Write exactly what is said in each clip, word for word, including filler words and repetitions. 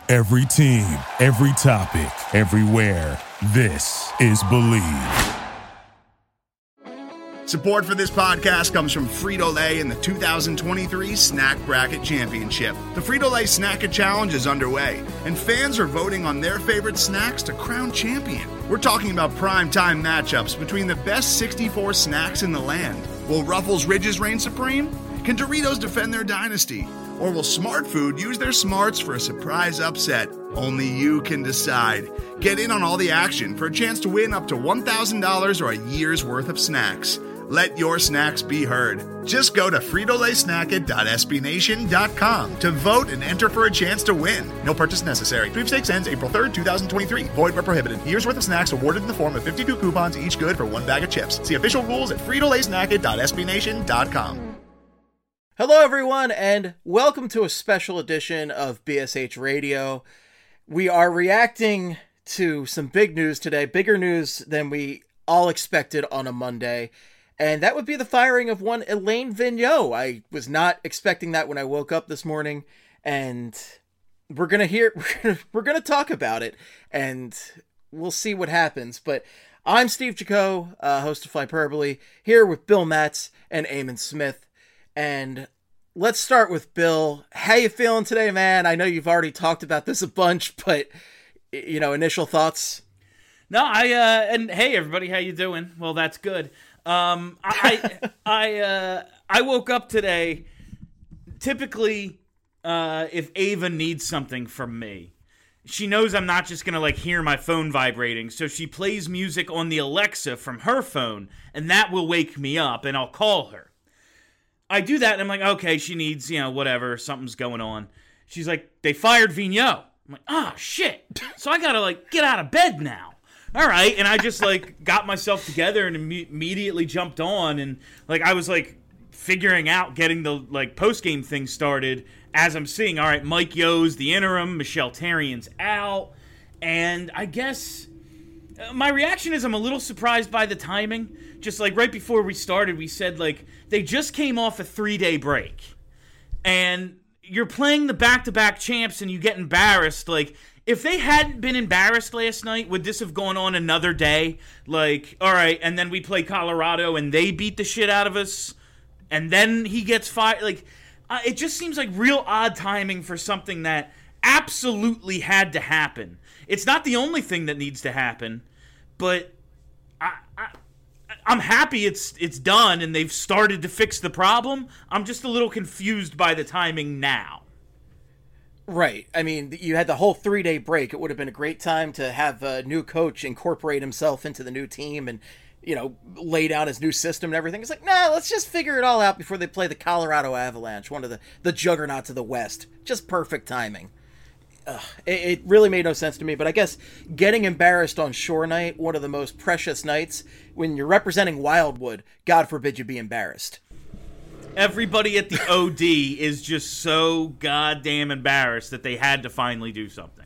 Every team, every topic, everywhere. This is Believe. Support for this podcast comes from Frito-Lay and the two thousand twenty-three Snack Bracket Championship. The Frito-Lay Snack-A Challenge is underway, and fans are voting on their favorite snacks to crown champion. We're talking about prime-time matchups between the best sixty-four snacks in the land. Will Ruffles Ridges reign supreme? Can Doritos defend their dynasty? Or will Smart Food use their smarts for a surprise upset? Only you can decide. Get in on all the action for a chance to win up to one thousand dollars or a year's worth of snacks. Let your snacks be heard. Just go to Frito Lay Snack It dot S B Nation dot com to vote and enter for a chance to win. No purchase necessary. Sweepstakes ends April third, twenty twenty-three. Void where prohibited. Year's worth of snacks awarded in the form of fifty-two coupons, each good for one bag of chips. See official rules at Frito Lay Snack It dot S B Nation dot com. Hello, everyone, and welcome to a special edition of B S H Radio. We are reacting to some big news today, bigger news than we all expected on a Monday. And that would be the firing of one Alain Vigneault. I was not expecting that when I woke up this morning, and we're gonna hear, we're gonna talk about it, and we'll see what happens. But I'm Steve Jaco, uh, host of Flyperbole, here with Bill Matz and Eamon Smith, and let's start with Bill. How you feeling today, man? I know you've already talked about this a bunch, but you know, initial thoughts. No, I uh, and hey everybody, how you doing? Well, that's good. Um, I, I, uh, I woke up today. Typically, uh, if Ava needs something from me, she knows I'm not just gonna like hear my phone vibrating. So she plays music on the Alexa from her phone, and that will wake me up, and I'll call her. I do that, and I'm like, okay, she needs, you know, whatever, something's going on. She's like, they fired Vigneault. I'm like, ah, oh, shit. So I gotta like get out of bed now. All right, and I just, like, got myself together and Im- immediately jumped on, and, like, I was, like, figuring out getting the, like, post-game thing started as I'm seeing, all right, Mike Yo's the interim, Michelle Therrien's out, and I guess uh, my reaction is I'm a little surprised by the timing. Just, like, right before we started, we said, like, they just came off a three-day break, and you're playing the back-to-back champs and you get embarrassed, like, if they hadn't been embarrassed last night, would this have gone on another day? Like, all right, and then we play Colorado and they beat the shit out of us, and then he gets fired. Like, uh, it just seems like real odd timing for something that absolutely had to happen. It's not the only thing that needs to happen, but I, I, I'm happy it's it's done and they've started to fix the problem. I'm just a little confused by the timing now. Right. I mean, you had the whole three-day break. It would have been a great time to have a new coach incorporate himself into the new team and, you know, lay down his new system and everything. It's like, nah, let's just figure it all out before they play the Colorado Avalanche, one of the, the juggernauts of the West. Just perfect timing. Ugh, it, it really made no sense to me, but I guess getting embarrassed on Shore Night, one of the most precious nights, when you're representing Wildwood, God forbid you be embarrassed. Everybody at the O D is just so goddamn embarrassed that they had to finally do something.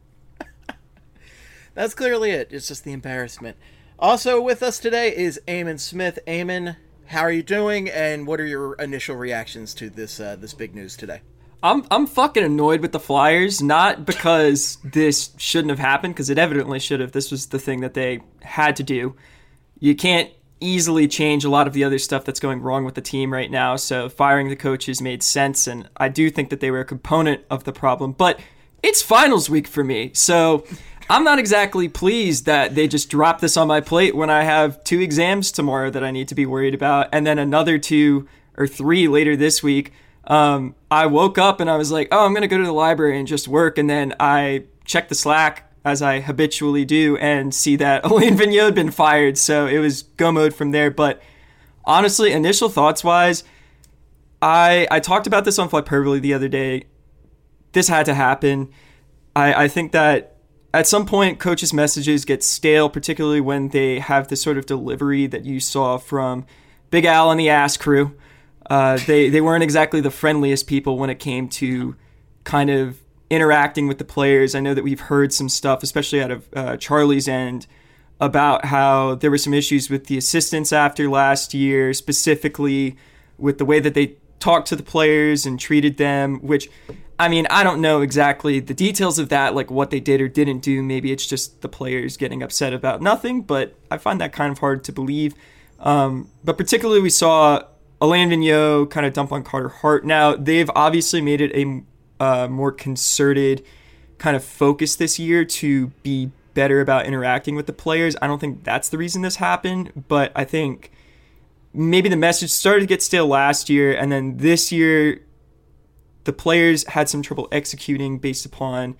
That's clearly it. It's just the embarrassment. Also with us today is Eamon Smith. Eamon, how are you doing, and what are your initial reactions to this uh, this big news today? I'm I'm fucking annoyed with the Flyers, not because this shouldn't have happened, because it evidently should have. This was the thing that they had to do. You can't easily change a lot of the other stuff that's going wrong with the team right now, so firing the coaches made sense, and I do think that they were a component of the problem, but it's finals week for me, so I'm not exactly pleased that they just dropped this on my plate when I have two exams tomorrow that I need to be worried about, and then another two or three later this week. Um, I woke up and I was like, oh, I'm going to go to the library and just work, and then I checked the Slack, as I habitually do, and see that Alain Vigneault had been fired, so it was go mode from there. But honestly, initial thoughts-wise, I I talked about this on Flyperbole the other day. This had to happen. I, I think that at some point, coaches' messages get stale, particularly when they have the sort of delivery that you saw from Big Al and the Ass Crew. Uh, they, they weren't exactly the friendliest people when it came to kind of interacting with the players. I know that we've heard some stuff, especially out of uh, Charlie's end, about how there were some issues with the assistants after last year, specifically with the way that they talked to the players and treated them, which, I mean, I don't know exactly the details of that, like what they did or didn't do. Maybe it's just the players getting upset about nothing, but I find that kind of hard to believe. Um, but particularly we saw Alain Vigneault kind of dump on Carter Hart. Now, they've obviously made it a uh, more concerted kind of focus this year to be better about interacting with the players. I don't think that's the reason this happened, but I think maybe the message started to get stale last year, and then this year the players had some trouble executing based upon,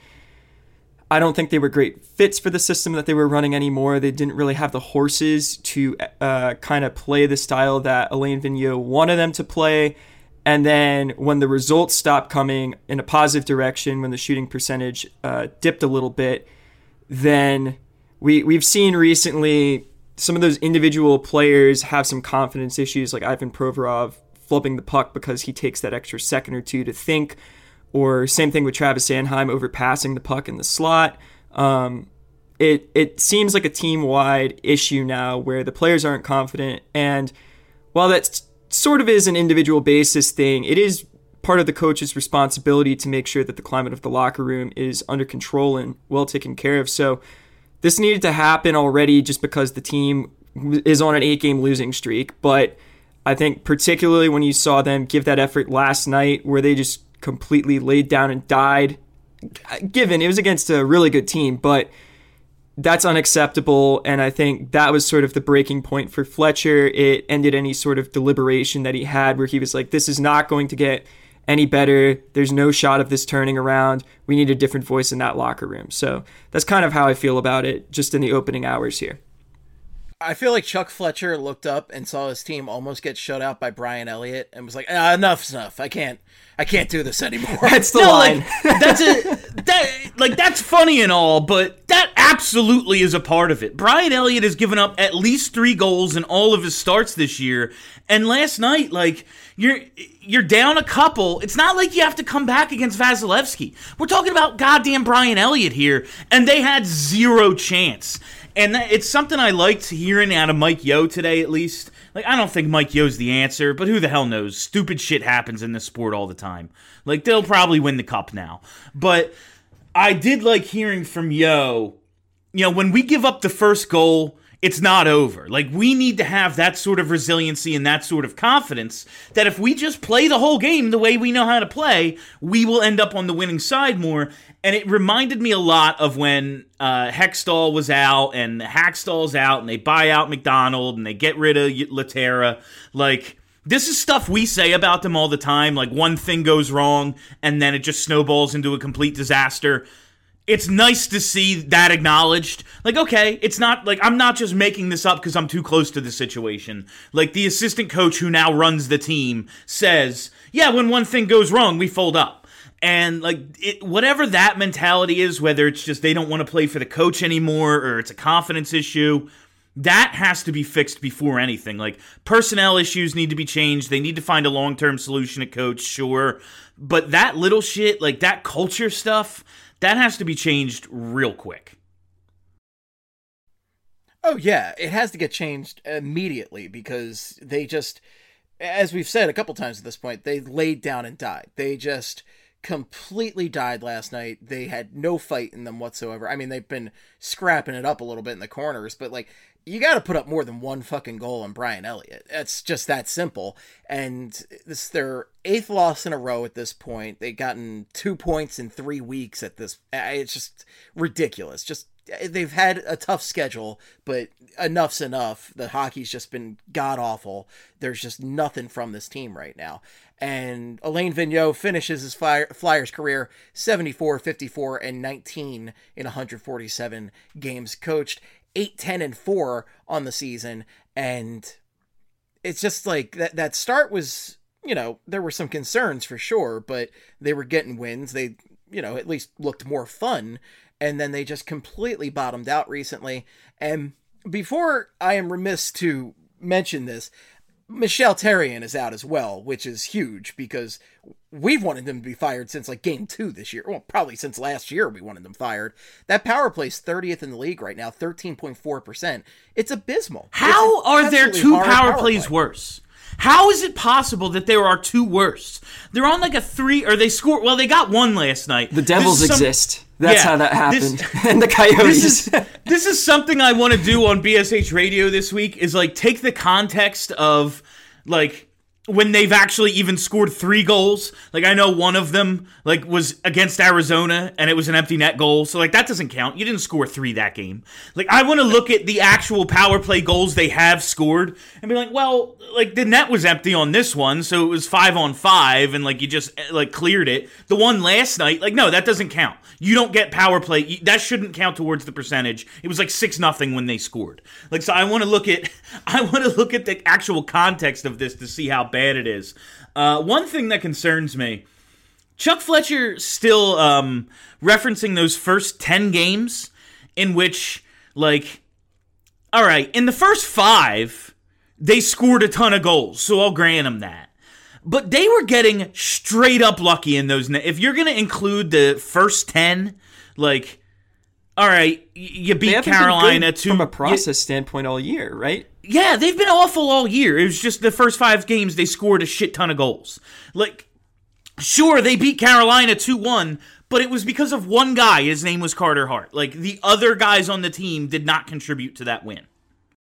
I don't think they were great fits for the system that they were running anymore. They didn't really have the horses to uh, kind of play the style that Alain Vigneault wanted them to play. And then when the results stopped coming in a positive direction, when the shooting percentage uh, dipped a little bit, then we, we've seen recently some of those individual players have some confidence issues, like Ivan Provorov flubbing the puck because he takes that extra second or two to think, or same thing with Travis Sanheim overpassing the puck in the slot. Um, it it seems like a team-wide issue now where the players aren't confident, and while that sort of is an individual basis thing, it is part of the coach's responsibility to make sure that the climate of the locker room is under control and well taken care of. So this needed to happen already just because the team is on an eight-game losing streak. But I think particularly when you saw them give that effort last night where they just completely laid down and died, given it was against a really good team, but that's unacceptable. And I think that was sort of the breaking point for Fletcher. It ended any sort of deliberation that he had where he was like, this is not going to get any better. There's no shot of this turning around. We need a different voice in that locker room. So that's kind of how I feel about it just in the opening hours here. I feel like Chuck Fletcher looked up and saw his team almost get shut out by Brian Elliott and was like, ah, enough's enough. I can't I can't do this anymore. That's the no, line. Like, that's a that like that's funny and all, but that absolutely is a part of it. Brian Elliott has given up at least three goals in all of his starts this year. And last night, like, you're you're down a couple. It's not like you have to come back against Vasilevsky. We're talking about goddamn Brian Elliott here, and they had zero chance. And that, it's something I liked hearing out of Mike Yeo today, at least. Like, I don't think Mike Yeo's the answer, but who the hell knows? Stupid shit happens in this sport all the time. Like, they'll probably win the cup now. But I did like hearing from Yeo, you know, when we give up the first goal, it's not over. Like, we need to have that sort of resiliency and that sort of confidence that if we just play the whole game the way we know how to play, we will end up on the winning side more. And it reminded me a lot of when uh, Hextall was out and Hackstall's out and they buy out McDonald and they get rid of Laterra. Like, this is stuff we say about them all the time. Like, one thing goes wrong and then it just snowballs into a complete disaster. It's nice to see that acknowledged. Like, okay, it's not like I'm not just making this up because I'm too close to the situation. Like, the assistant coach who now runs the team says, yeah, when one thing goes wrong, we fold up. And, like, it, whatever that mentality is, whether it's just they don't want to play for the coach anymore or it's a confidence issue, that has to be fixed before anything. Like, personnel issues need to be changed. They need to find a long-term solution at coach, sure. But that little shit, like that culture stuff, that has to be changed real quick. Oh, yeah. It has to get changed immediately because they just, as we've said a couple times at this point, they laid down and died. They just completely died last night. They had no fight in them whatsoever. I mean, they've been scrapping it up a little bit in the corners, but like, you got to put up more than one fucking goal on Brian Elliott. It's just that simple. And this is their eighth loss in a row at this point. They've gotten two points in three weeks at this. It's just ridiculous. Just they've had a tough schedule, but enough's enough. The hockey's just been god awful. There's just nothing from this team right now. And Alain Vigneault finishes his Flyers career seventy-four, fifty-four, and nineteen in one hundred forty-seven games coached. eight, ten, and four on the season. And it's just like that, that start was, you know, there were some concerns for sure, but they were getting wins. They, you know, at least looked more fun. And then they just completely bottomed out recently. And before I am remiss to mention this, Michel Therrien is out as well, which is huge because we've wanted him to be fired since like game two this year. Well, probably since last year we wanted them fired. That power play's thirtieth in the league right now, thirteen point four percent. It's abysmal. How it's are there two power, power plays play. worse? How is it possible that there are two worse? They're on like a three, or they scored. Well, they got one last night. The Devils some, exist. That's yeah, how that happened. This, and the Coyotes. This is, this is something I want to do on B S H Radio this week. Is like take the context of like. When they've actually even scored three goals. Like, I know one of them, like, was against Arizona, and it was an empty net goal. So, like, that doesn't count. You didn't score three that game. Like, I want to look at the actual power play goals they have scored and be like, well, like, the net was empty on this one, so it was five on five, and, like, you just, like, cleared it. The one last night, like, no, that doesn't count. You don't get power play. That shouldn't count towards the percentage. It was like six nothing when they scored. Like, so I want to look at, I want to look at the actual context of this to see how bad it is. Uh, one thing that concerns me, Chuck Fletcher still um, referencing those first ten games in which, like, all right, in the first five, they scored a ton of goals, so I'll grant them that. But they were getting straight up lucky in those. If you're going to include the first ten, like, all right, you beat Carolina to from a process you, standpoint all year, right? Yeah, they've been awful all year. It was just the first five games they scored a shit ton of goals. Like, sure, they beat Carolina two one, but it was because of one guy. His name was Carter Hart. Like, the other guys on the team did not contribute to that win.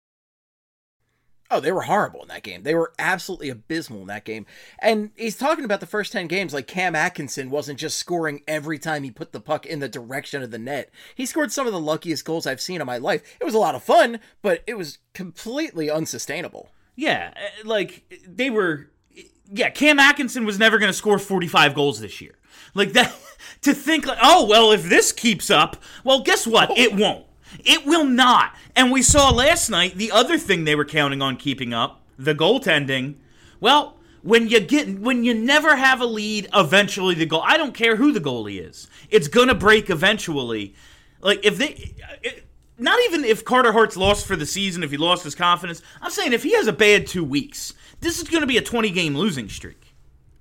Oh, they were horrible in that game. They were absolutely abysmal in that game. And he's talking about the first ten games like Cam Atkinson wasn't just scoring every time he put the puck in the direction of the net. He scored some of the luckiest goals I've seen in my life. It was a lot of fun, but it was completely unsustainable. Yeah, like, they were... Yeah, Cam Atkinson was never going to score forty-five goals this year. Like, that... To think, like, oh, well, if this keeps up, well, guess what? It won't. It will not. And we saw last night the other thing they were counting on keeping up, the goaltending. Well, when you get when you never have a lead, eventually the goal. I don't care who the goalie is. It's going to break eventually. Like if they it, not even if Carter Hart's lost for the season, if he lost his confidence. I'm saying if he has a bad two weeks, this is going to be a twenty game losing streak.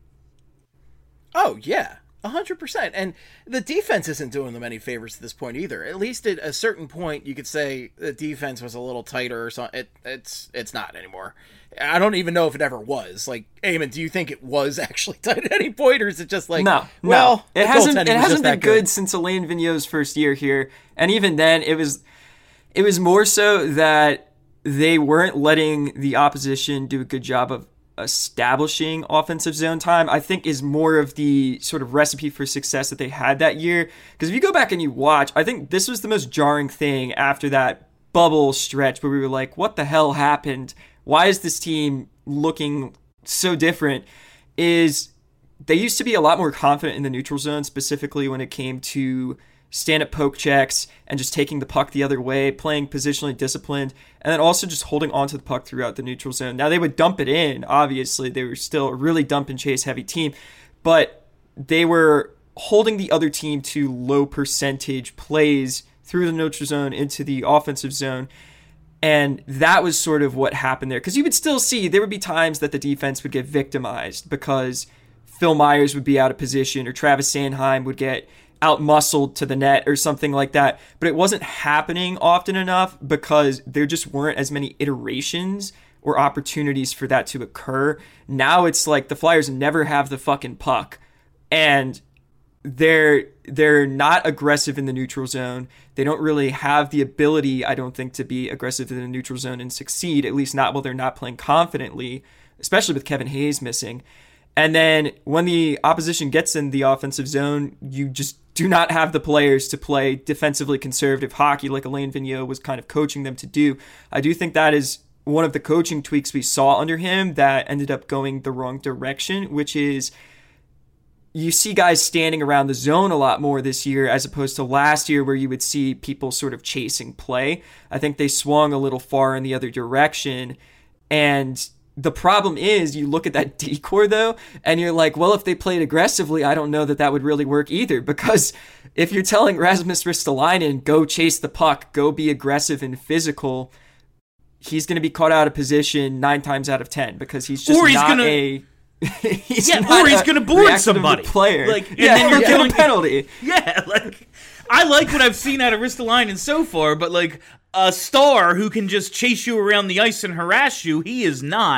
Oh, yeah. one hundred percent. And the defense isn't doing them any favors at this point either. At least at a certain point, you could say the defense was a little tighter or something. It, it's it's not anymore. I don't even know if it ever was. Like, Eamon, do you think it was actually tight at any point, or is it just like, no, well, no. It hasn't, it hasn't been good. good since Alain Vigneault's first year here. And even then, it was it was more so that they weren't letting the opposition do a good job of establishing offensive zone time. I think is more of the sort of recipe for success that they had that year. Because if you go back and you watch, I think this was the most jarring thing after that bubble stretch where we were like, what the hell happened? Why is this team looking so different? Is they used to be a lot more confident in the neutral zone, specifically when it came to stand-up poke checks and just taking the puck the other way, playing positionally disciplined, and then also just holding onto the puck throughout the neutral zone. Now, they would dump it in, obviously. They were still a really dump-and-chase-heavy team, but they were holding the other team to low-percentage plays through the neutral zone into the offensive zone, and that was sort of what happened there. Because you would still see, there would be times that the defense would get victimized because Phil Myers would be out of position or Travis Sanheim would get out-muscled to the net or something like that. But it wasn't happening often enough because there just weren't as many iterations or opportunities for that to occur. Now it's like the Flyers never have the fucking puck. And they're they're not aggressive in the neutral zone. They don't really have the ability, I don't think, to be aggressive in the neutral zone and succeed, at least not while they're not playing confidently, especially with Kevin Hayes missing. And then when the opposition gets in the offensive zone, you just do not have the players to play defensively conservative hockey like Alain Vigneault was kind of coaching them to do. I do think that is one of the coaching tweaks we saw under him that ended up going the wrong direction, which is you see guys standing around the zone a lot more this year as opposed to last year where you would see people sort of chasing play. I think they swung a little far in the other direction. And the problem is you look at that D-core, though, and you're like, well, if they played aggressively, I don't know that that would really work either. Because if you're telling Rasmus Ristolainen, go chase the puck, go be aggressive and physical, he's going to be caught out of position nine times out of ten because he's just or he's not gonna, a... he's yeah, or he's going to board somebody. Player. Like, and yeah, then you're getting killing a penalty. Yeah, like, I like what I've seen out of Ristolainen so far, but like, a star who can just chase you around the ice and harass you, he is not.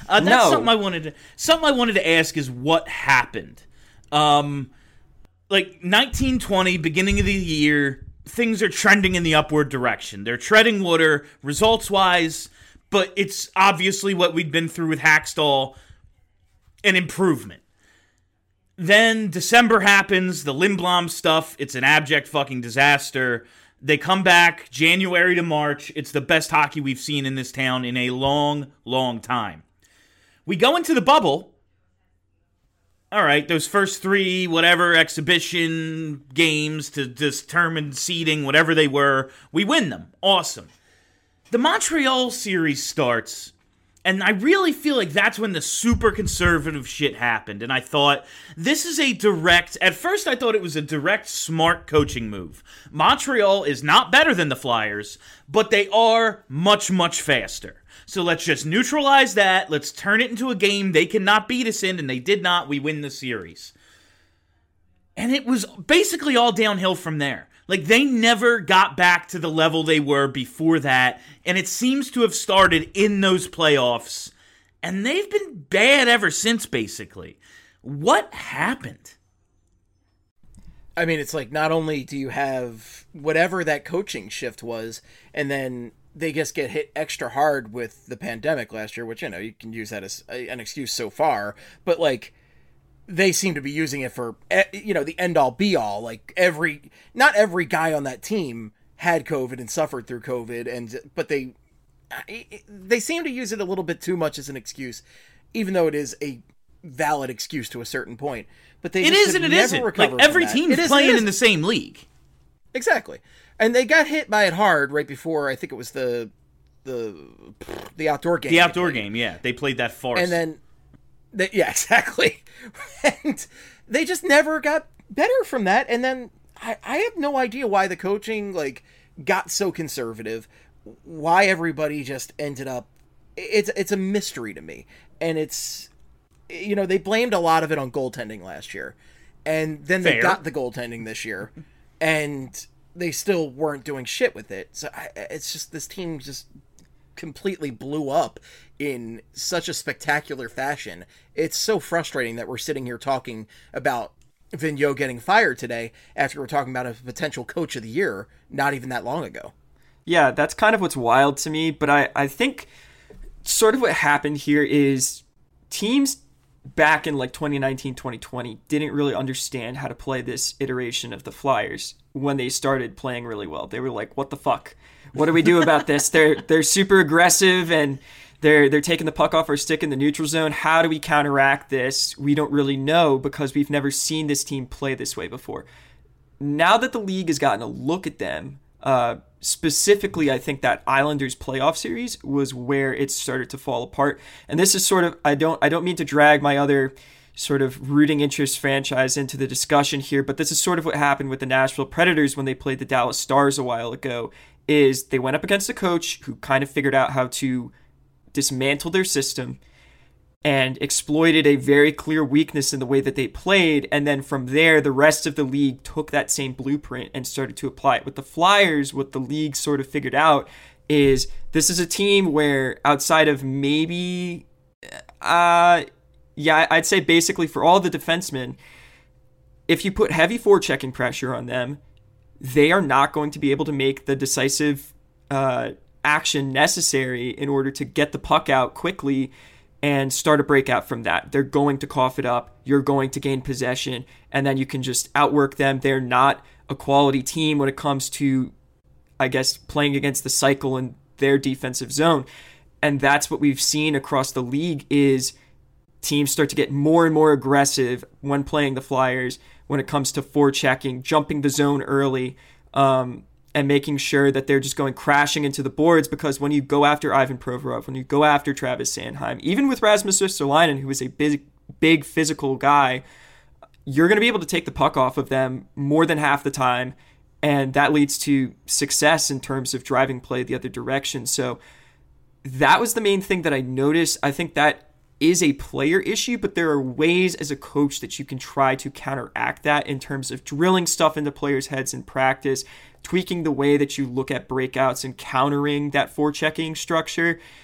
Uh, that's No. something I wanted to something I wanted to ask is what happened. Um, like nineteen twenty, beginning of the year, things are trending in the upward direction. They're treading water results-wise, but it's obviously what we'd been through with Hackstall, an improvement. Then December happens, the Lindblom stuff, it's an abject fucking disaster. They come back January to March. It's the best hockey we've seen in this town in a long, long time. We go into the bubble. All right, those first three, whatever, exhibition games to determine seeding, whatever they were, we win them. Awesome. The Montreal series starts, and I really feel like that's when the super conservative shit happened. And I thought, this is a direct, at first I thought it was a direct, smart coaching move. Montreal is not better than the Flyers, but they are much, much faster. So let's just neutralize that. Let's turn it into a game they cannot beat us in, and they did not. We win the series. And it was basically all downhill from there. Like, they never got back to the level they were before that, and it seems to have started in those playoffs, and they've been bad ever since, basically. What happened? I mean, it's like, not only do you have whatever that coaching shift was, and then they just get hit extra hard with the pandemic last year, which, you know, you can use that as a, an excuse so far, but, like, they seem to be using it for, you know, the end-all, be-all. Like, every, not every guy on that team had COVID and suffered through COVID, and but they they seem to use it a little bit too much as an excuse, even though it is a valid excuse to a certain point. But they It just is and have it never isn't. recovered Like, every from that. team's It is and playing it in isn't. the same league. Exactly. And they got hit by it hard right before, I think it was the the the outdoor game. The outdoor game, yeah. They played that farce. And then, they, yeah, exactly. And they just never got better from that. And then I, I have no idea why the coaching, like, got so conservative, why everybody just ended up, it's it's a mystery to me. And it's, you know, they blamed a lot of it on goaltending last year. And then they Fair. got the goaltending this year. And they still weren't doing shit with it. So I, it's just, this team just completely blew up in such a spectacular fashion. It's so frustrating that we're sitting here talking about Vigneault getting fired today after we're talking about a potential coach of the year not even that long ago. Yeah, that's kind of what's wild to me, but I, I think sort of what happened here is teams back in like twenty nineteen, twenty twenty didn't really understand how to play this iteration of the Flyers when they started playing really well. They were like, what the fuck? What do we do about this? They're they're super aggressive and they're they're taking the puck off our stick in the neutral zone. How do we counteract this? We don't really know because we've never seen this team play this way before. Now that the league has gotten a look at them, uh, specifically, I think that Islanders playoff series was where it started to fall apart. And this is sort of, I don't I don't mean to drag my other sort of rooting interest franchise into the discussion here, but this is sort of what happened with the Nashville Predators when they played the Dallas Stars a while ago, is they went up against a coach who kind of figured out how to dismantle their system and exploited a very clear weakness in the way that they played. And then from there, the rest of the league took that same blueprint and started to apply it. With the Flyers, what the league sort of figured out is this is a team where outside of maybe, uh, yeah, I'd say basically for all the defensemen, if you put heavy forechecking pressure on them, they are not going to be able to make the decisive uh, action necessary in order to get the puck out quickly and start a breakout from that. They're going to cough it up. You're going to gain possession, and then you can just outwork them. They're not a quality team when it comes to, I guess, playing against the cycle in their defensive zone. And that's what we've seen across the league is teams start to get more and more aggressive when playing the Flyers when it comes to forechecking, jumping the zone early, um, and making sure that they're just going crashing into the boards, because when you go after Ivan Provorov, when you go after Travis Sanheim, even with Rasmus Ristolainen, who is a big, big physical guy, you're going to be able to take the puck off of them more than half the time, and that leads to success in terms of driving play the other direction. So that was the main thing that I noticed. I think that is a player issue, but there are ways as a coach that you can try to counteract that in terms of drilling stuff into players' heads in practice, tweaking the way that you look at breakouts and countering that forechecking structure.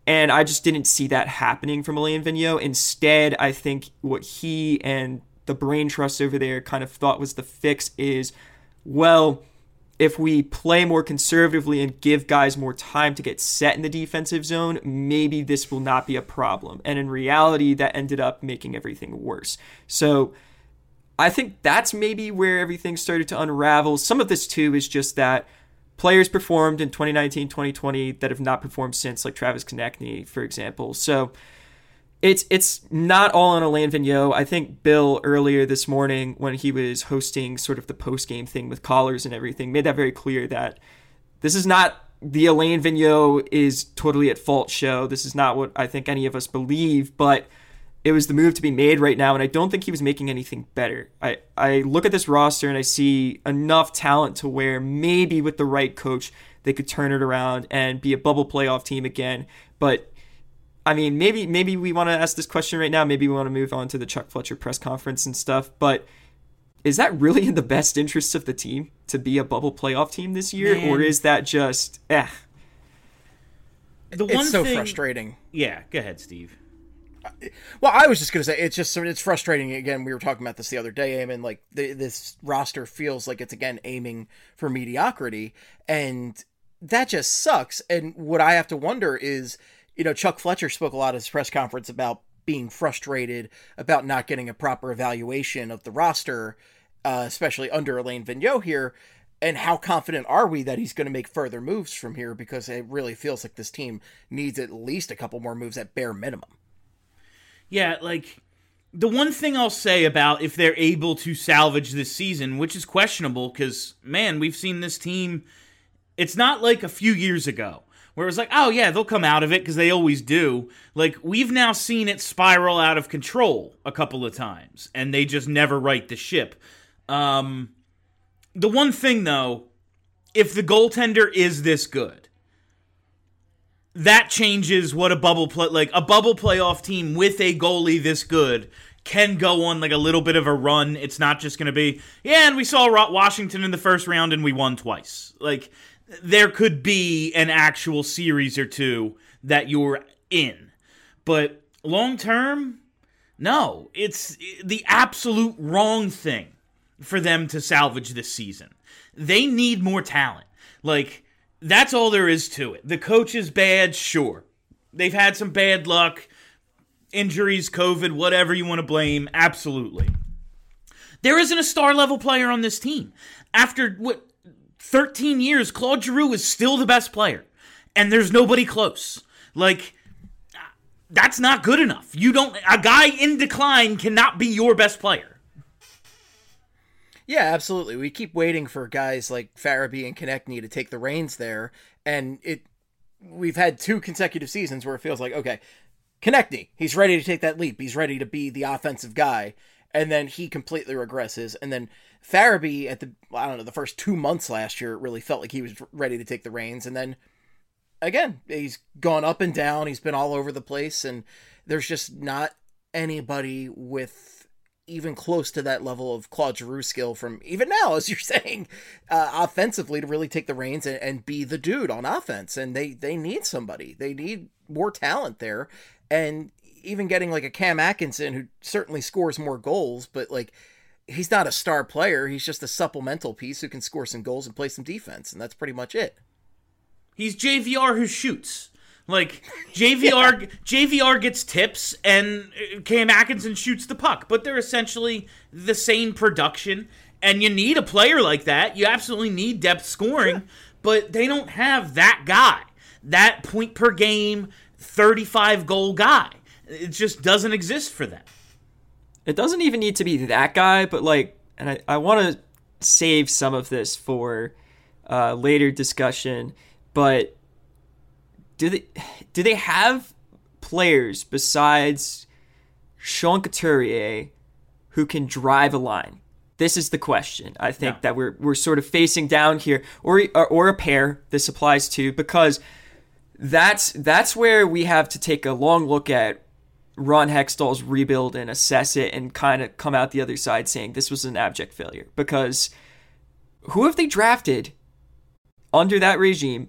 And I just didn't see that happening from Alain Vigneault. Instead, I think what he and the brain trust over there kind of thought was the fix is, well, if we play more conservatively and give guys more time to get set in the defensive zone, maybe this will not be a problem. And in reality, that ended up making everything worse. So I think that's maybe where everything started to unravel. Some of this, too, is just that players performed in twenty nineteen, twenty twenty that have not performed since, like Travis Konechny, for example. So it's it's not all on Alain Vigneault. I think Bill earlier this morning, when he was hosting sort of the post-game thing with callers and everything, made that very clear that this is not the Alain Vigneault is totally at fault show. This is not what I think any of us believe, but it was the move to be made right now, and I don't think he was making anything better. I, I look at this roster and I see enough talent to where maybe with the right coach, they could turn it around and be a bubble playoff team again. But, I mean, maybe maybe we want to ask this question right now. Maybe we want to move on to the Chuck Fletcher press conference and stuff. But is that really in the best interests of the team to be a bubble playoff team this year? Man. Or is that just, eh? The one it's so thing... frustrating. Yeah, go ahead, Steve. Well, I was just going to say, it's just, it's frustrating. Again, we were talking about this the other day, Eamon, like the, this roster feels like it's again aiming for mediocrity, and that just sucks. And what I have to wonder is, you know, Chuck Fletcher spoke a lot at his press conference about being frustrated about not getting a proper evaluation of the roster, uh, especially under Alain Vigneault here. And how confident are we that he's going to make further moves from here? Because it really feels like this team needs at least a couple more moves at bare minimum. Yeah, like, the one thing I'll say about if they're able to salvage this season, which is questionable because, man, we've seen this team, it's not like a few years ago where it was like, oh, yeah, they'll come out of it because they always do. Like, we've now seen it spiral out of control a couple of times, and they just never right the ship. Um, the one thing, though, if the goaltender is this good, that changes what a bubble play like a bubble playoff team with a goalie this good can go on like a little bit of a run. It's not just going to be, yeah, and we saw Washington in the first round and we won twice. Like, there could be an actual series or two that you're in. But long term, no, it's the absolute wrong thing for them to salvage this season. They need more talent. Like, that's all there is to it. The coach is bad, sure. They've had some bad luck, injuries, COVID, whatever you want to blame, absolutely. There isn't a star-level player on this team. After, what, thirteen years, Claude Giroux is still the best player, and there's nobody close. Like, that's not good enough. You don't, a guy in decline cannot be your best player. Yeah, absolutely. We keep waiting for guys like Farabee and Konechny to take the reins there, and it we've had two consecutive seasons where it feels like, okay, Konechny, he's ready to take that leap. He's ready to be the offensive guy, and then he completely regresses. And then Farabee at the, I don't know, the first two months last year, it really felt like he was ready to take the reins, and then again, he's gone up and down. He's been all over the place, and there's just not anybody with even close to that level of Claude Giroux skill from even now, as you're saying, uh, offensively to really take the reins and, and be the dude on offense. And they, they need somebody. They need more talent there. And even getting like a Cam Atkinson, who certainly scores more goals, but like, he's not a star player. He's just a supplemental piece who can score some goals and play some defense. And that's pretty much it. He's J V R who shoots. Like, J V R yeah. J V R gets tips, and Cam Atkinson shoots the puck. But they're essentially the same production, and you need a player like that. You absolutely need depth scoring, sure. But they don't have that guy. That point-per-game, thirty-five-goal guy. It just doesn't exist for them. It doesn't even need to be that guy, but, like, and I, I want to save some of this for uh, later discussion, but Do they do they have players besides Sean Couturier who can drive a line? This is the question I think yeah. that we're we're sort of facing down here, or, or or a pair this applies to, because that's that's where we have to take a long look at Ron Hextall's rebuild and assess it and kind of come out the other side saying this was an abject failure. Because who have they drafted under that regime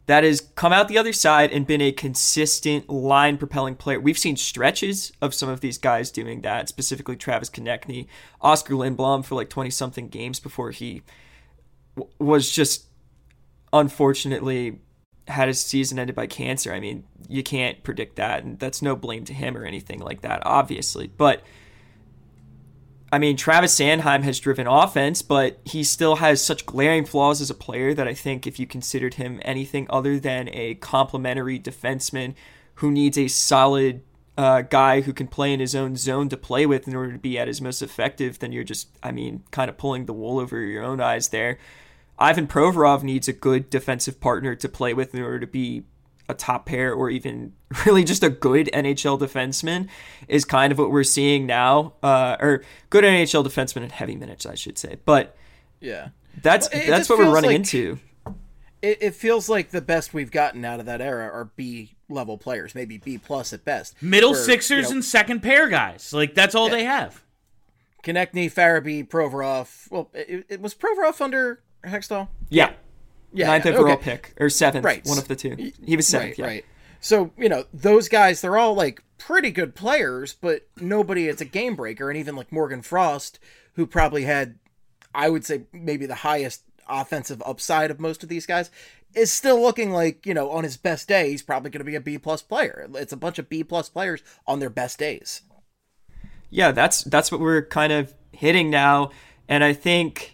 that has come out the other side and been a consistent line propelling player. We've seen stretches of some of these guys doing that, specifically Travis Konechny, Oscar Lindblom for like twenty something games before he w- was just unfortunately had his season ended by cancer. I mean, you can't predict that, and that's no blame to him or anything like that, obviously. But I mean, Travis Sanheim has driven offense, but he still has such glaring flaws as a player that I think if you considered him anything other than a complementary defenseman who needs a solid uh, guy who can play in his own zone to play with in order to be at his most effective, then you're just, I mean, kind of pulling the wool over your own eyes there. Ivan Provorov needs a good defensive partner to play with in order to be a top pair or even really just a good N H L defenseman is kind of what we're seeing now, uh, or good N H L defenseman in heavy minutes, I should say. But yeah, that's well, that's what we're running like, into. It, it feels like the best we've gotten out of that era are B level players, maybe B plus at best. Middle where, sixers you know, and second pair guys. Like that's all yeah. they have. Konechny, Farabee, Provorov. Well, it, it was Provorov under Hextall? Yeah. Yeah, Ninth yeah, overall okay. pick, or seventh, right. one of the two. He was seventh, right, yeah. Right. So, you know, those guys, they're all, like, pretty good players, but nobody is a game breaker. And even, like, Morgan Frost, who probably had, I would say, maybe the highest offensive upside of most of these guys, is still looking like, you know, on his best day, he's probably going to be a B-plus player. It's a bunch of B-plus players on their best days. Yeah, that's that's what we're kind of hitting now. And I think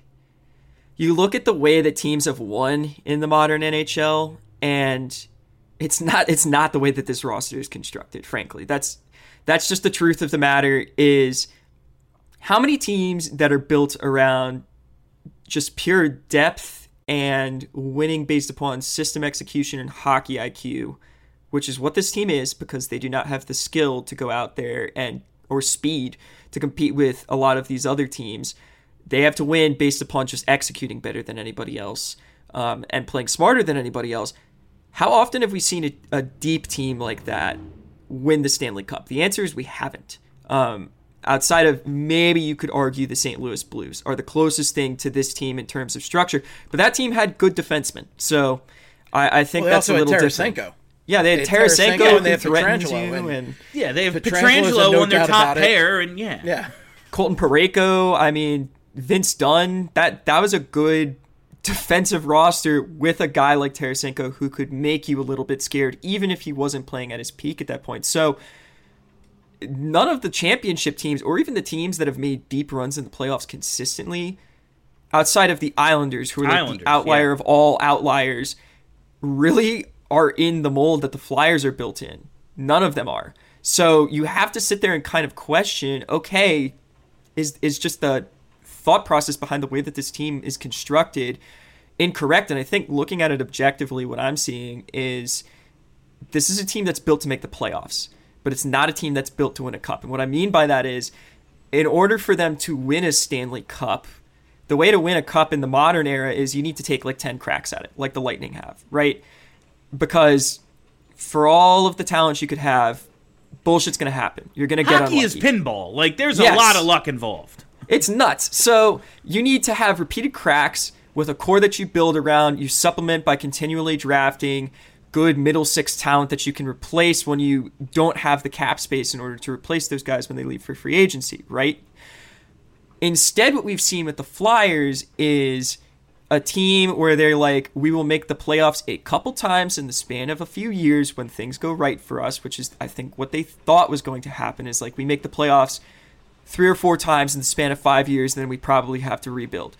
you look at the way that teams have won in the modern N H L, and it's not it's not the way that this roster is constructed, frankly. That's that's just the truth of the matter is how many teams that are built around just pure depth and winning based upon system execution and hockey I Q, which is what this team is because they do not have the skill to go out there and or speed to compete with a lot of these other teams. They have to win based upon just executing better than anybody else um, and playing smarter than anybody else. How often have we seen a, a deep team like that win the Stanley Cup? The answer is we haven't. Um, outside of maybe you could argue the Saint Louis Blues are the closest thing to this team in terms of structure, but that team had good defensemen. So I, I think well, that's a little Tarasenko. different. Yeah, they had they had Tarasenko, Tarasenko, who and they have threatened you, Pietrangelo, and, and Yeah, they have Pietrangelo, Pietrangelo no on their doubt top about it. pair, and yeah. Yeah. Colton Parayko. I mean, Vince Dunn. That that was a good defensive roster with a guy like Tarasenko who could make you a little bit scared, even if he wasn't playing at his peak at that point. So none of the championship teams, or even the teams that have made deep runs in the playoffs consistently, outside of the Islanders, who are like Islanders, the outlier yeah. of all outliers, really are in the mold that the Flyers are built in. None of them are. So you have to sit there and kind of question, okay, is is just the thought process behind the way that this team is constructed incorrect? And I think looking at it objectively, what I'm seeing is this is a team that's built to make the playoffs, but it's not a team that's built to win a cup. And what I mean by that is, in order for them to win a Stanley Cup, the way to win a cup in the modern era is you need to take like ten cracks at it, like the Lightning have, right? Because for all of the talent you could have, bullshit's going to happen. You're going to get Hockey unlucky. is pinball. Like, there's Yes. a lot of luck involved. It's nuts. So you need to have repeated cracks with a core that you build around. You supplement by continually drafting good middle six talent that you can replace when you don't have the cap space in order to replace those guys when they leave for free agency, right? Instead, what we've seen with the Flyers is a team where they're like, we will make the playoffs a couple times in the span of a few years when things go right for us, which is, I think, what they thought was going to happen is like we make the playoffs three or four times in the span of five years, and then we probably have to rebuild.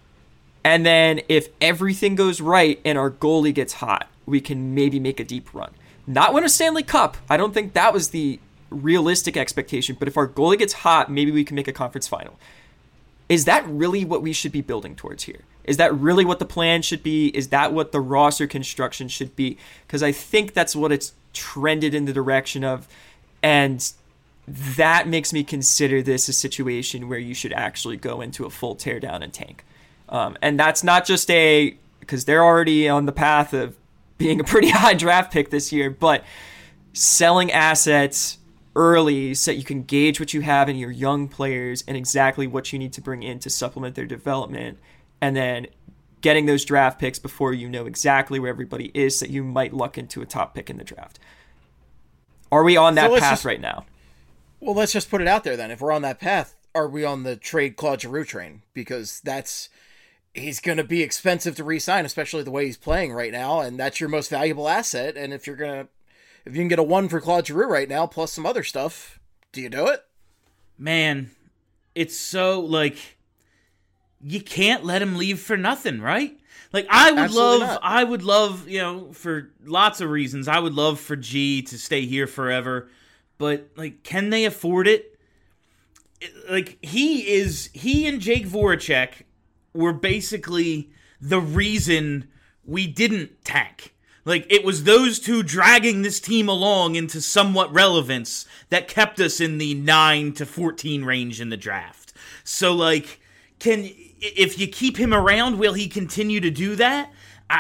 And then if everything goes right and our goalie gets hot, we can maybe make a deep run. Not win a Stanley Cup. I don't think that was the realistic expectation, but if our goalie gets hot, maybe we can make a conference final. Is that really what we should be building towards here? Is that really what the plan should be? Is that what the roster construction should be? Because I think that's what it's trended in the direction of, and that makes me consider this a situation where you should actually go into a full teardown and tank. Um, and that's not just a, because they're already on the path of being a pretty high draft pick this year, but selling assets early so that you can gauge what you have in your young players and exactly what you need to bring in to supplement their development, and then getting those draft picks before you know exactly where everybody is, that you might luck into a top pick in the draft. Are we on that So path let's just- right now? Well, let's just put it out there then. If we're on that path, are we on the trade Claude Giroux train? Because that's he's going to be expensive to re-sign, especially the way he's playing right now, and that's your most valuable asset. And if you're gonna, if you can get a one for Claude Giroux right now plus some other stuff, do you do it? Man, it's so like you can't let him leave for nothing, right? Like I would Absolutely love, not. I would love, you know, for lots of reasons, I would love for G to stay here forever. But, like, can they afford it? it? Like, he is... He and Jake Voracek were basically the reason we didn't tank. Like, it was those two dragging this team along into somewhat relevance that kept us in the nine to fourteen range in the draft. So, like, can... If you keep him around, will he continue to do that? I...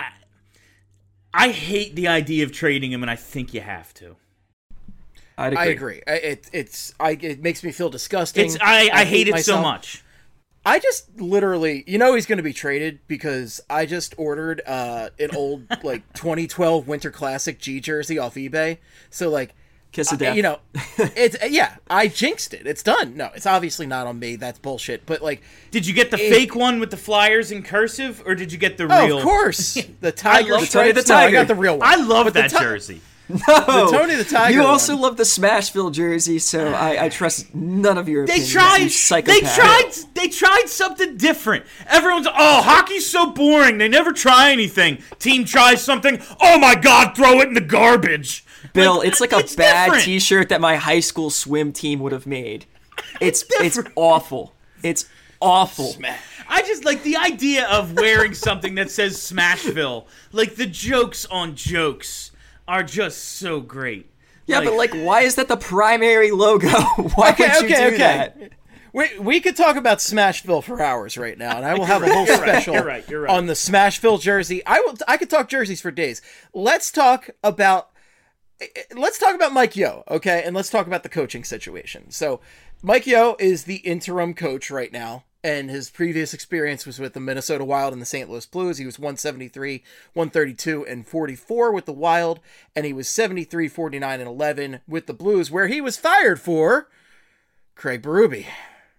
I hate the idea of trading him, and I think you have to. I'd agree. I agree. I, it it's I it makes me feel disgusting. It's I, I, hate it myself. so much. I just literally, you know, he's going to be traded because I just ordered uh, an old like twenty twelve Winter Classic G jersey off eBay. So like, Kiss of I- death. you know, it's yeah, I jinxed it. It's done. No, it's obviously not on me. That's bullshit. But like, Did you get the It- fake one with the Flyers in cursive, or did you get the oh, real? of course, the Tiger love stripes. Tony the No, I Tiger. got the real one. I love But the that Ti- jersey. No, Tony the Tiger You also one. love the Smashville jersey, so I, I trust none of your They opinions. tried. you They psychopath. tried. They tried something different. Everyone's oh, hockey's so boring. They never try anything. Team tries something. Oh my God, throw it in the garbage. Bill, it's like a it's bad different. T-shirt that my high school swim team would have made. It's it's awful. It's awful. I just like the idea of wearing something that says Smashville. Like the jokes on jokes are just so great. Yeah, but like, why is that the primary logo? Why Okay, would you okay, do okay. that? We we could talk about Smashville for hours right now, and I will have a whole You're right, special you're right, you're right. on the Smashville jersey. I will. I could talk jerseys for days. Let's talk about. Let's talk about Mike Yeo, okay, and let's talk about the coaching situation. So, Mike Yeo is the interim coach right now, and his previous experience was with the Minnesota Wild and the Saint Louis Blues. He was one seventy-three, one thirty-two, and forty-four with the Wild, and he was seventy-three, forty-nine, and eleven with the Blues, where he was fired for Craig Berube.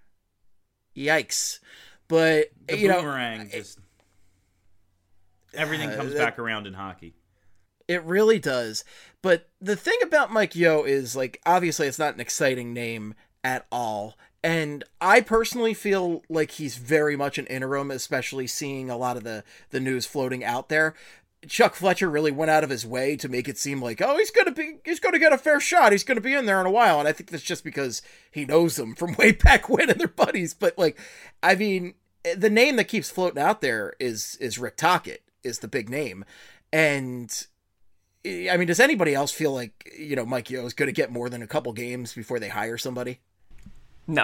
Yikes. But, The you know, boomerang just everything comes that- back around in hockey. it really does. But the thing about Mike Yeo is, like, obviously it's not an exciting name at all. And I personally feel like he's very much an interim, especially seeing a lot of the, the news floating out there. Chuck Fletcher really went out of his way to make it seem like, oh, he's gonna be, he's gonna get a fair shot. He's gonna be in there in a while. And I think that's just because he knows them from way back when and they're buddies. But like, I mean, the name that keeps floating out there is is Rick Tocchet is the big name, and I mean, does anybody else feel like, you know, Mike Yeo is going to get more than a couple games before they hire somebody? No.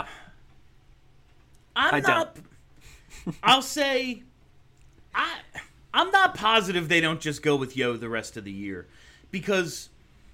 I'm I not. I'll say, I I'm not positive they don't just go with Yo the rest of the year, because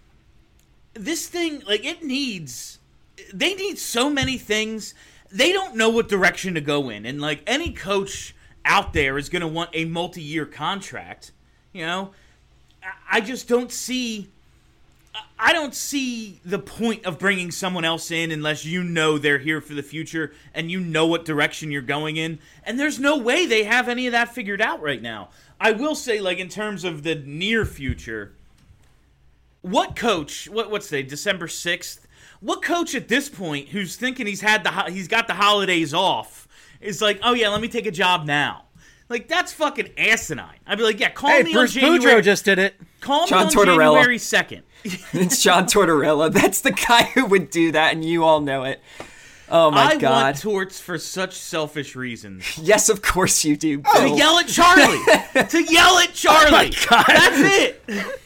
this thing, like, it needs. They need so many things. They don't know what direction to go in, and like any coach out there is going to want a multi-year contract. You know, I- I just don't see. I don't see the point of bringing someone else in unless you know they're here for the future and you know what direction you're going in. And there's no way they have any of that figured out right now. I will say, like, in terms of the near future, what coach, what what's today, December sixth? What coach at this point who's thinking he's had the ho- he's got the holidays off is like, oh yeah, let me take a job now? Like, that's fucking asinine. I'd be like, yeah, call Hey, me Bruce on January. Boudreaux just did it. Call John me on Tortorella. January second. It's John Tortorella. That's the guy who would do that, and you all know it. Oh my I god. want torts for such selfish reasons. Yes, of course you do, To Bill. yell at Charlie. to yell at Charlie. God. That's it.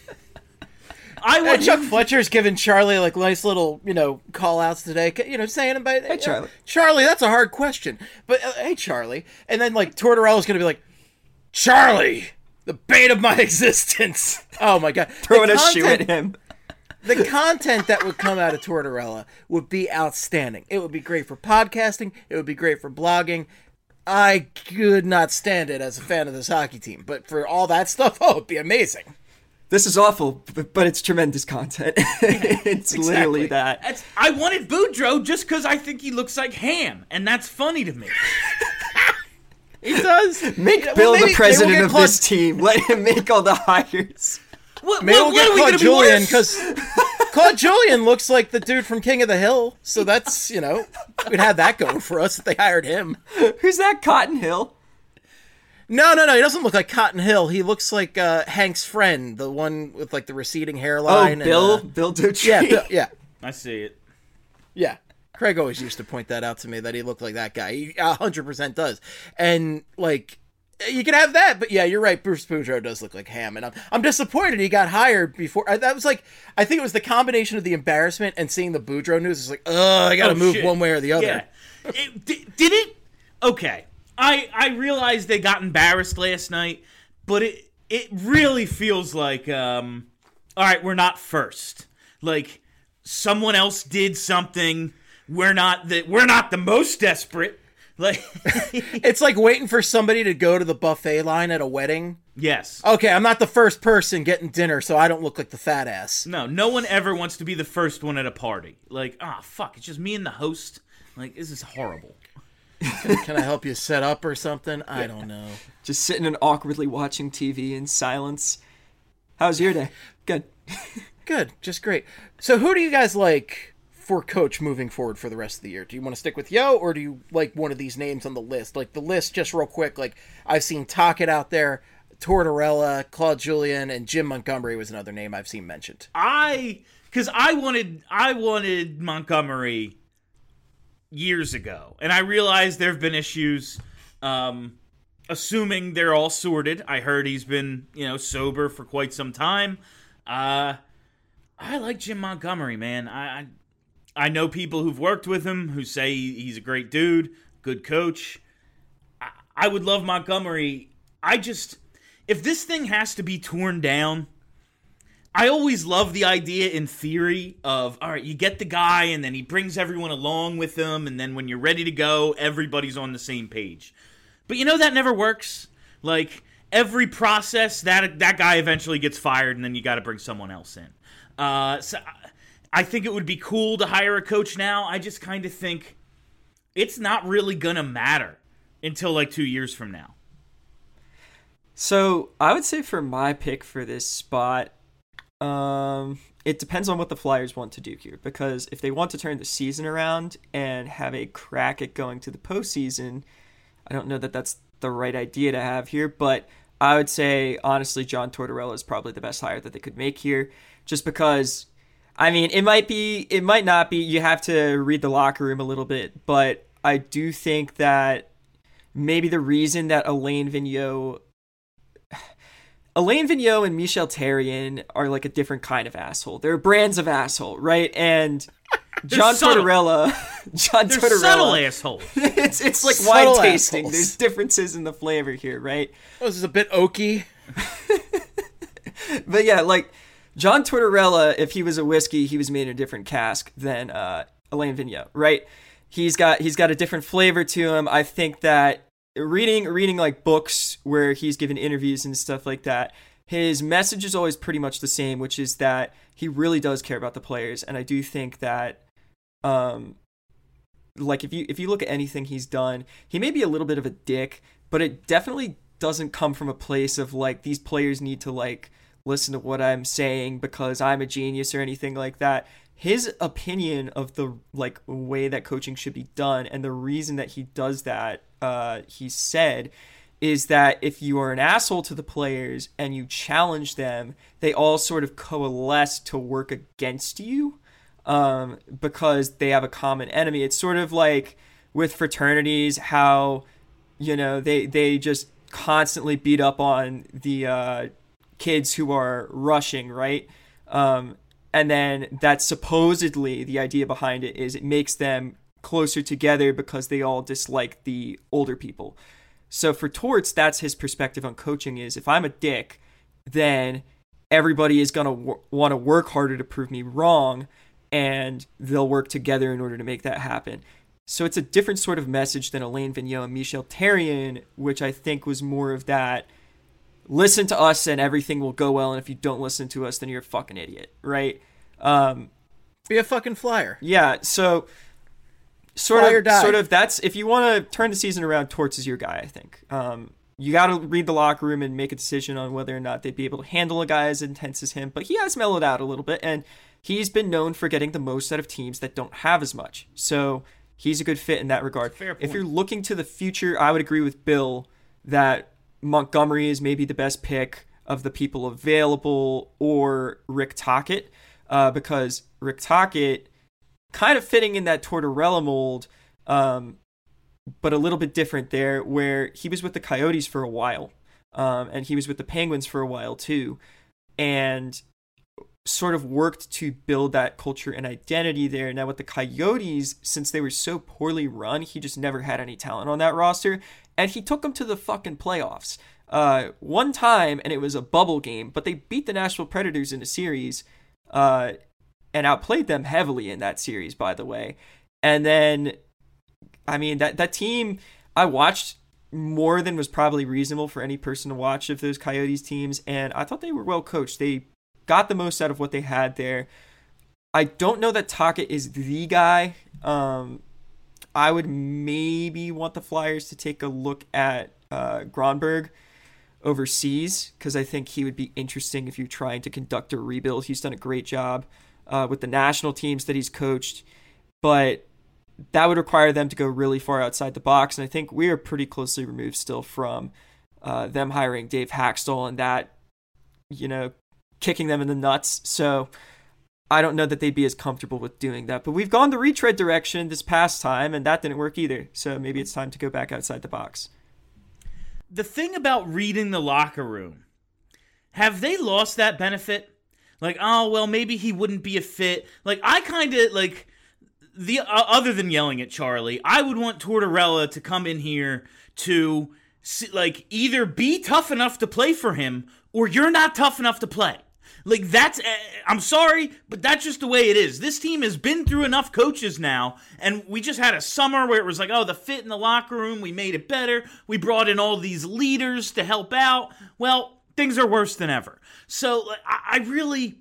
I Uh, want Chuck Fletcher's giving Charlie like nice little, you know, call outs today. You know, saying about hey Charlie. Charlie, that's a hard question. But uh, hey Charlie, and then like Tortorella's gonna be like, Charlie, the bane of my existence. Oh my god, Throwing The a shoe content- at him. The content that would come out of Tortorella would be outstanding. It would be great for podcasting. It would be great for blogging. I could not stand it as a fan of this hockey team. But for all that stuff, oh, it'd be amazing. This is awful, but, but it's tremendous content. It's Exactly. literally that. That's, I wanted Boudreaux just because I think he looks like Ham, and that's funny to me. He does. Make Yeah, Bill well, maybe- the president maybe we'll of get this team. Let him make all the hires. What, Maybe what, we'll what get are we Claude going to be Julien worse? because Claude Julien looks like the dude from King of the Hill. So that's, you know, we'd have that going for us if they hired him. Who's that? Cotton Hill? No, no, no. He doesn't look like Cotton Hill. He looks like uh, Hank's friend, the one with like the receding Oh, hairline. Bill? And, uh, Bill Dutree? yeah, Bill, yeah, I see it. yeah. Craig always used to point that out to me that he looked like that guy. He one hundred percent does. And like, you can have that, but yeah, you're right. Bruce Boudreaux does look like Ham, and I'm I'm disappointed he got hired before. I, that was like, I think it was the combination of the embarrassment and seeing the Boudreaux news. It's like, oh, I got to Oh, move shit. one way or the other. Yeah. It, did, did it? Okay. I I realized they got embarrassed last night, but it it really feels like um all right, we're not first. Like someone else did something. We're not the we're not the most desperate. Like It's like waiting for somebody to go to the buffet line at a wedding. yes. Okay, I'm not the first person getting dinner, so I don't look like the fat ass. No, no one ever wants to be the first one at a party. Like, ah, fuck, it's just me and the host. Like, this is horrible. Can I help you set up or something? I don't know. Just sitting and awkwardly watching T V in silence. How's your day? Good. Good, just great. So who do you guys like for coach moving forward for the rest of the year? Do you want to stick with Yo, or do you like one of these names on the list? Like the list, just real quick, like I've seen Tocchet out there, Tortorella, Claude Julien, and Jim Montgomery was another name I've seen mentioned. I, because I wanted, I wanted Montgomery years ago, and I realized there have been issues. Um, assuming they're all sorted, I heard he's been, you know, sober for quite some time. Uh, I like Jim Montgomery, man. I, I, I know people who've worked with him who say he's a great dude, good coach. I, I would love Montgomery. I just, if this thing has to be torn down, I always love the idea in theory of, all right, you get the guy and then he brings everyone along with him, and then when you're ready to go, everybody's on the same page. But you know that never works. Like, every process, that that guy eventually gets fired, and then you got to bring someone else in. Uh, so I think it would be cool to hire a coach now. I just kind of think it's not really going to matter until like two years from now. So I would say for my pick for this spot, um, it depends on what the Flyers want to do here. Because if they want to turn the season around and have a crack at going to the postseason, I don't know that that's the right idea to have here. But I would say, honestly, John Tortorella is probably the best hire that they could make here. Just because, I mean, it might be, it might not be. You have to read the locker room a little bit. But I do think that maybe the reason that Alain Vigneault Alain Vigneault and Michel Therrien are like a different kind of asshole. They're brands of asshole, right? And John subtle. Tortorella, John They're Tortorella, subtle assholes. it's it's like Subtle wine tasting. assholes. There's differences in the flavor here, right? Oh, this is a bit oaky. But yeah, like John Tortorella, if he was a whiskey, he was made in a different cask than uh, Alain Vigneault, right? He's got he's got a different flavor to him. I think that reading reading like books where he's given interviews and stuff like that, his message is always pretty much the same, which is that he really does care about the players. And I do think that um like if you if you look at anything he's done, he may be a little bit of a dick, but it definitely doesn't come from a place of like these players need to like listen to what I'm saying because I'm a genius or anything like that. His opinion of the like way that coaching should be done, and the reason that he does that, uh, he said, is that if you are an asshole to the players and you challenge them, they all sort of coalesce to work against you um, because they have a common enemy. It's sort of like with fraternities, how, you know, they, they just constantly beat up on the uh, kids who are rushing, right? Um, and then that's supposedly the idea behind it is it makes them closer together because they all dislike the older people. So for Torts, that's his perspective on coaching is if I'm a dick, then everybody is going to w- want to work harder to prove me wrong, and they'll work together in order to make that happen. So it's a different sort of message than Alain Vigneault and Michel Therrien, which I think was more of that, listen to us and everything will go well, and if you don't listen to us, then you're a fucking idiot, right? Um, Be a fucking flyer. yeah, so sort Fly or of, die. sort of that's, if you want to turn the season around, Torts is your guy, I think. Um, you got to read the locker room and make a decision on whether or not they'd be able to handle a guy as intense as him, but he has mellowed out a little bit, and he's been known for getting the most out of teams that don't have as much. So he's a good fit in that regard. Fair point. If you're looking to the future, I would agree with Bill that Montgomery is maybe the best pick of the people available, or Rick Tocchet, uh, because Rick Tocchet, kind of fitting in that Tortorella mold, um, but a little bit different there, where he was with the Coyotes for a while, um, and he was with the Penguins for a while too, and sort of worked to build that culture and identity there. Now with the Coyotes, since they were so poorly run, he just never had any talent on that roster, and he took them to the fucking playoffs uh, one time, and it was a bubble game, but they beat the Nashville Predators in a series, uh, and outplayed them heavily in that series, by the way. And then, I mean, that, that team, I watched more than was probably reasonable for any person to watch of those Coyotes teams, and I thought they were well coached. They got the most out of what they had there. I don't know that Tocchet is the guy. Um, I would maybe want the Flyers to take a look at uh, Gronberg overseas, because I think he would be interesting if you're trying to conduct a rebuild. He's done a great job uh, with the national teams that he's coached, but that would require them to go really far outside the box, and I think we are pretty closely removed still from uh, them hiring Dave Haxtell and that, you know, kicking them in the nuts. So I don't know that they'd be as comfortable with doing that. But we've gone the retread direction this past time, and that didn't work either. So maybe it's time to go back outside the box. The thing about reading the locker room, have they lost that benefit? Like, oh, well, maybe he wouldn't be a fit. Like, I kind of, like, the uh, other than yelling at Charlie, I would want Tortorella to come in here to, like, either be tough enough to play for him, or you're not tough enough to play. Like, that's, uh, I'm sorry, but that's just the way it is. This team has been through enough coaches now, and we just had a summer where it was like, oh, the fit in the locker room, we made it better. We brought in all these leaders to help out. Well, things are worse than ever. So, I, I really,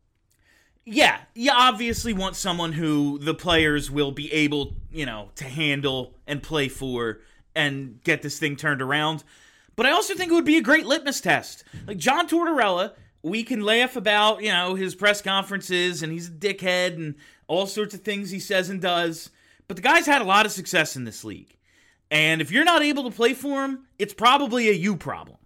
yeah, you obviously want someone who the players will be able, you know, to handle and play for and get this thing turned around. But I also think it would be a great litmus test. Like, John Tortorella, we can laugh about, you know, his press conferences, and he's a dickhead and all sorts of things he says and does. But the guy's had a lot of success in this league. And if you're not able to play for him, it's probably a you problem.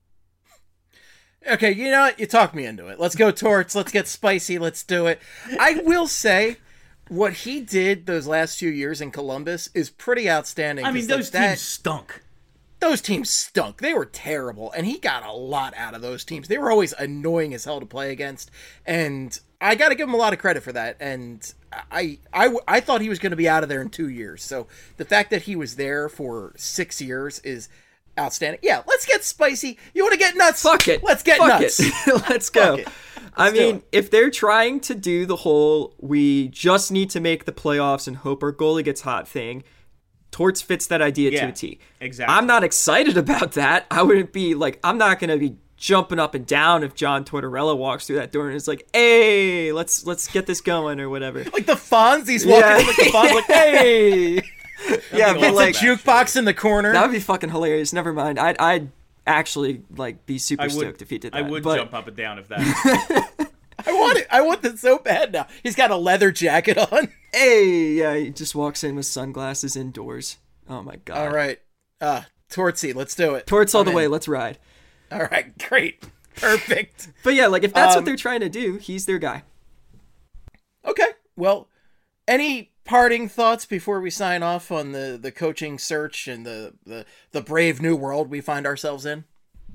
Okay, you know what? You talked me into it. Let's go, Torts. Let's get spicy. Let's do it. I will say, what he did those last few years in Columbus is pretty outstanding. I mean, 'cause, like, those that- teams stunk. Those teams stunk. They were terrible, and he got a lot out of those teams. They were always annoying as hell to play against, and I got to give him a lot of credit for that. And I, I, I thought he was going to be out of there in two years. So the fact that he was there for six years is outstanding. Yeah, let's get spicy. You want to get nuts? Fuck it. Let's get Fuck nuts. it. Let's go. Fuck it. I Let's do mean, it. if they're trying to do the whole we just need to make the playoffs and hope our goalie gets hot thing, Torts fits that idea Yeah, to a T. exactly. I'm not excited about that. I wouldn't be like, I'm not going to be jumping up and down if John Tortorella walks through that door and is like, hey, let's let's get this going or whatever. Like the Fonz, he's walking Yeah. in like the Fonz, like, hey! Yeah, be but awesome. like, It's a jukebox in the corner. that would be fucking hilarious. Never mind. I'd, I'd actually like be super I would, stoked if he did that. I would but, jump up and down if that. I want it. I want it so bad now. He's got a leather jacket on. Hey, yeah, he just walks in with sunglasses indoors. Oh my god. All right. Uh, Tortsy, let's do it. Torts all I'm the in. way. Let's ride. All right, great. Perfect. But yeah, like if that's Um, what they're trying to do, he's their guy. Okay. Well, any parting thoughts before we sign off on the, the coaching search and the, the, the brave new world we find ourselves in?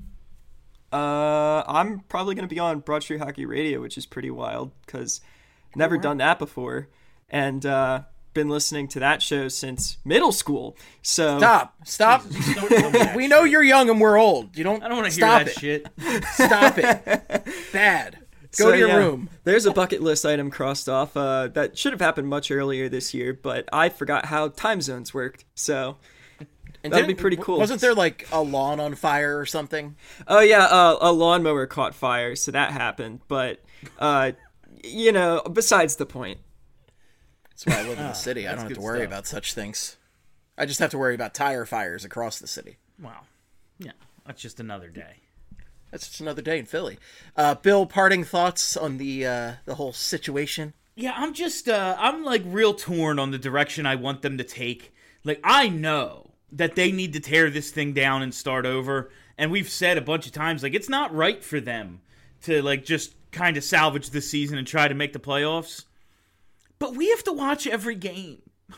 Uh, I'm probably gonna be on Broad Street Hockey Radio, which is pretty wild because never done that before, and uh, been listening to that show since middle school. So Stop. Stop. We know you're young and we're old. You don't I don't want to hear stop that it. shit. Stop it. Bad. Go So, to your yeah, room. There's a bucket list item crossed off. Uh, that should have happened much earlier this year, but I forgot how time zones worked. So And that'd be didn't- pretty cool. Wasn't there like a lawn on fire or something? Oh yeah, uh, a lawnmower caught fire, so that happened. But uh, you know, besides the point. That's why I live in the city. I don't have good to worry stuff. about such things. I just have to worry about tire fires across the city. Wow. Yeah, that's just another day. That's just another day in Philly. Uh, Bill, parting thoughts on the uh, the whole situation? Yeah, I'm just, uh, I'm like real torn on the direction I want them to take. Like, I know that they need to tear this thing down and start over. And we've said a bunch of times, like, it's not right for them to, like, just kind of salvage this season and try to make the playoffs. But we have to watch every game.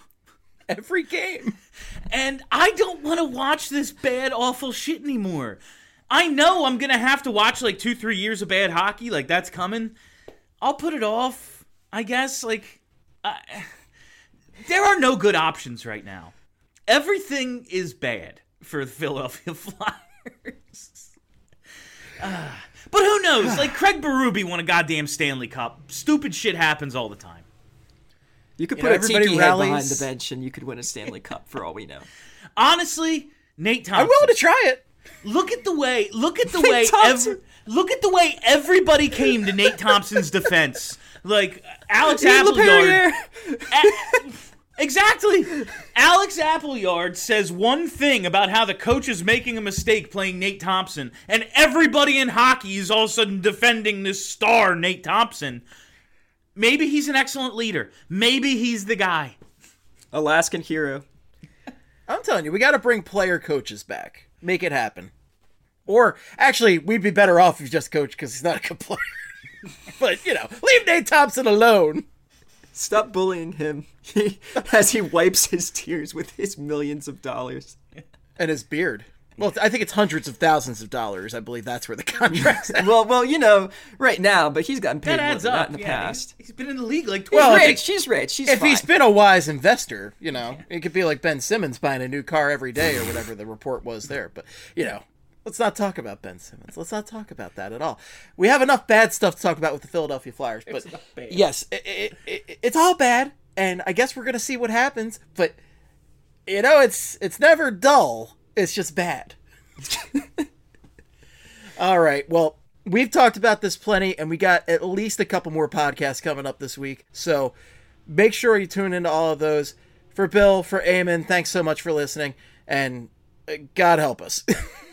Every game. And I don't want to watch this bad, awful shit anymore. I know I'm going to have to watch like two, three years of bad hockey. Like, that's coming. I'll put it off, I guess. Like, I, there are no good options right now. Everything is bad for the Philadelphia Flyers. uh, but who knows? Like, Craig Berube won a goddamn Stanley Cup. Stupid shit happens all the time. You could You put know, a everybody tiki head behind rallies. the bench, and you could win a Stanley Cup for all we know. Honestly, Nate Thompson. I'm willing to try it. Look at the way, look at the Nate way, Thompson. every, look at the way everybody came to Nate Thompson's defense. Like Alex Yves Appleyard. Laperriere. A- exactly. Alex Appleyard says one thing about how the coach is making a mistake playing Nate Thompson, and everybody in hockey is all of a sudden defending this star, Nate Thompson. Maybe he's an excellent leader. Maybe he's the guy. Alaskan hero. I'm telling you, we got to bring player coaches back. Make it happen. Or, actually, we'd be better off if you just coach because he's not a good player. But, you know, leave Nate Thompson alone. Stop bullying him he, as he wipes his tears with his millions of dollars. And his beard. Well, I think it's hundreds of thousands of dollars. I believe that's where the contract's at. Well, well, you know, right now, but he's gotten paid That more adds than up. that in the Yeah, past. he's, he's been in the league like Well, twenty. if Rich, she's rich. She's If fine. he's been a wise investor, you know, it could be like Ben Simmons buying a new car every day or whatever the report was there. But, you know, let's not talk about Ben Simmons. Let's not talk about that at all. We have enough bad stuff to talk about with the Philadelphia Flyers. But, yes, it, it, it, it's all bad. And I guess we're going to see what happens. But, you know, it's it's never dull. It's just bad. All right. Well, we've talked about this plenty, and we got at least a couple more podcasts coming up this week. So make sure you tune into all of those. For Bill, for Eamon, thanks so much for listening, and uh, God help us.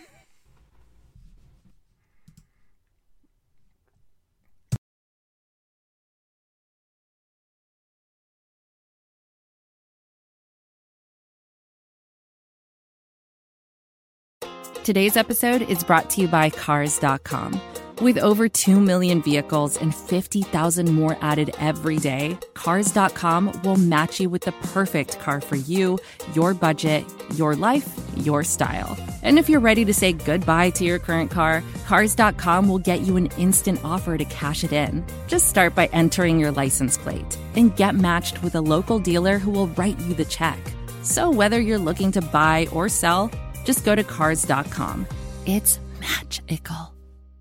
Today's episode is brought to you by Cars dot com. With over two million vehicles and fifty thousand more added every day, Cars dot com will match you with the perfect car for you, your budget, your life, your style. And if you're ready to say goodbye to your current car, Cars dot com will get you an instant offer to cash it in. Just start by entering your license plate and get matched with a local dealer who will write you the check. So whether you're looking to buy or sell, just go to Cars dot com. It's magical.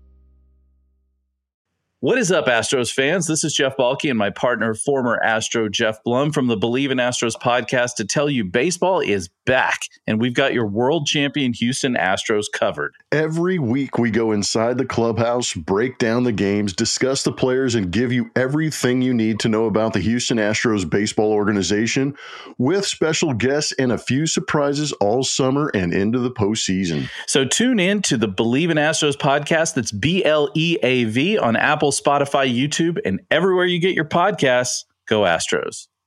What is up, Astros fans? This is Jeff Balke and my partner, former Astro Jeff Blum from the Believe in Astros podcast to tell you baseball is back, and we've got your world champion Houston Astros covered. Every week we go inside the clubhouse, break down the games, discuss the players, and give you everything you need to know about the Houston Astros baseball organization with special guests and a few surprises all summer and into the postseason. So tune in to the Believe in Astros podcast. That's B L E A V on Apple, Spotify, YouTube, and everywhere you get your podcasts. Go Astros.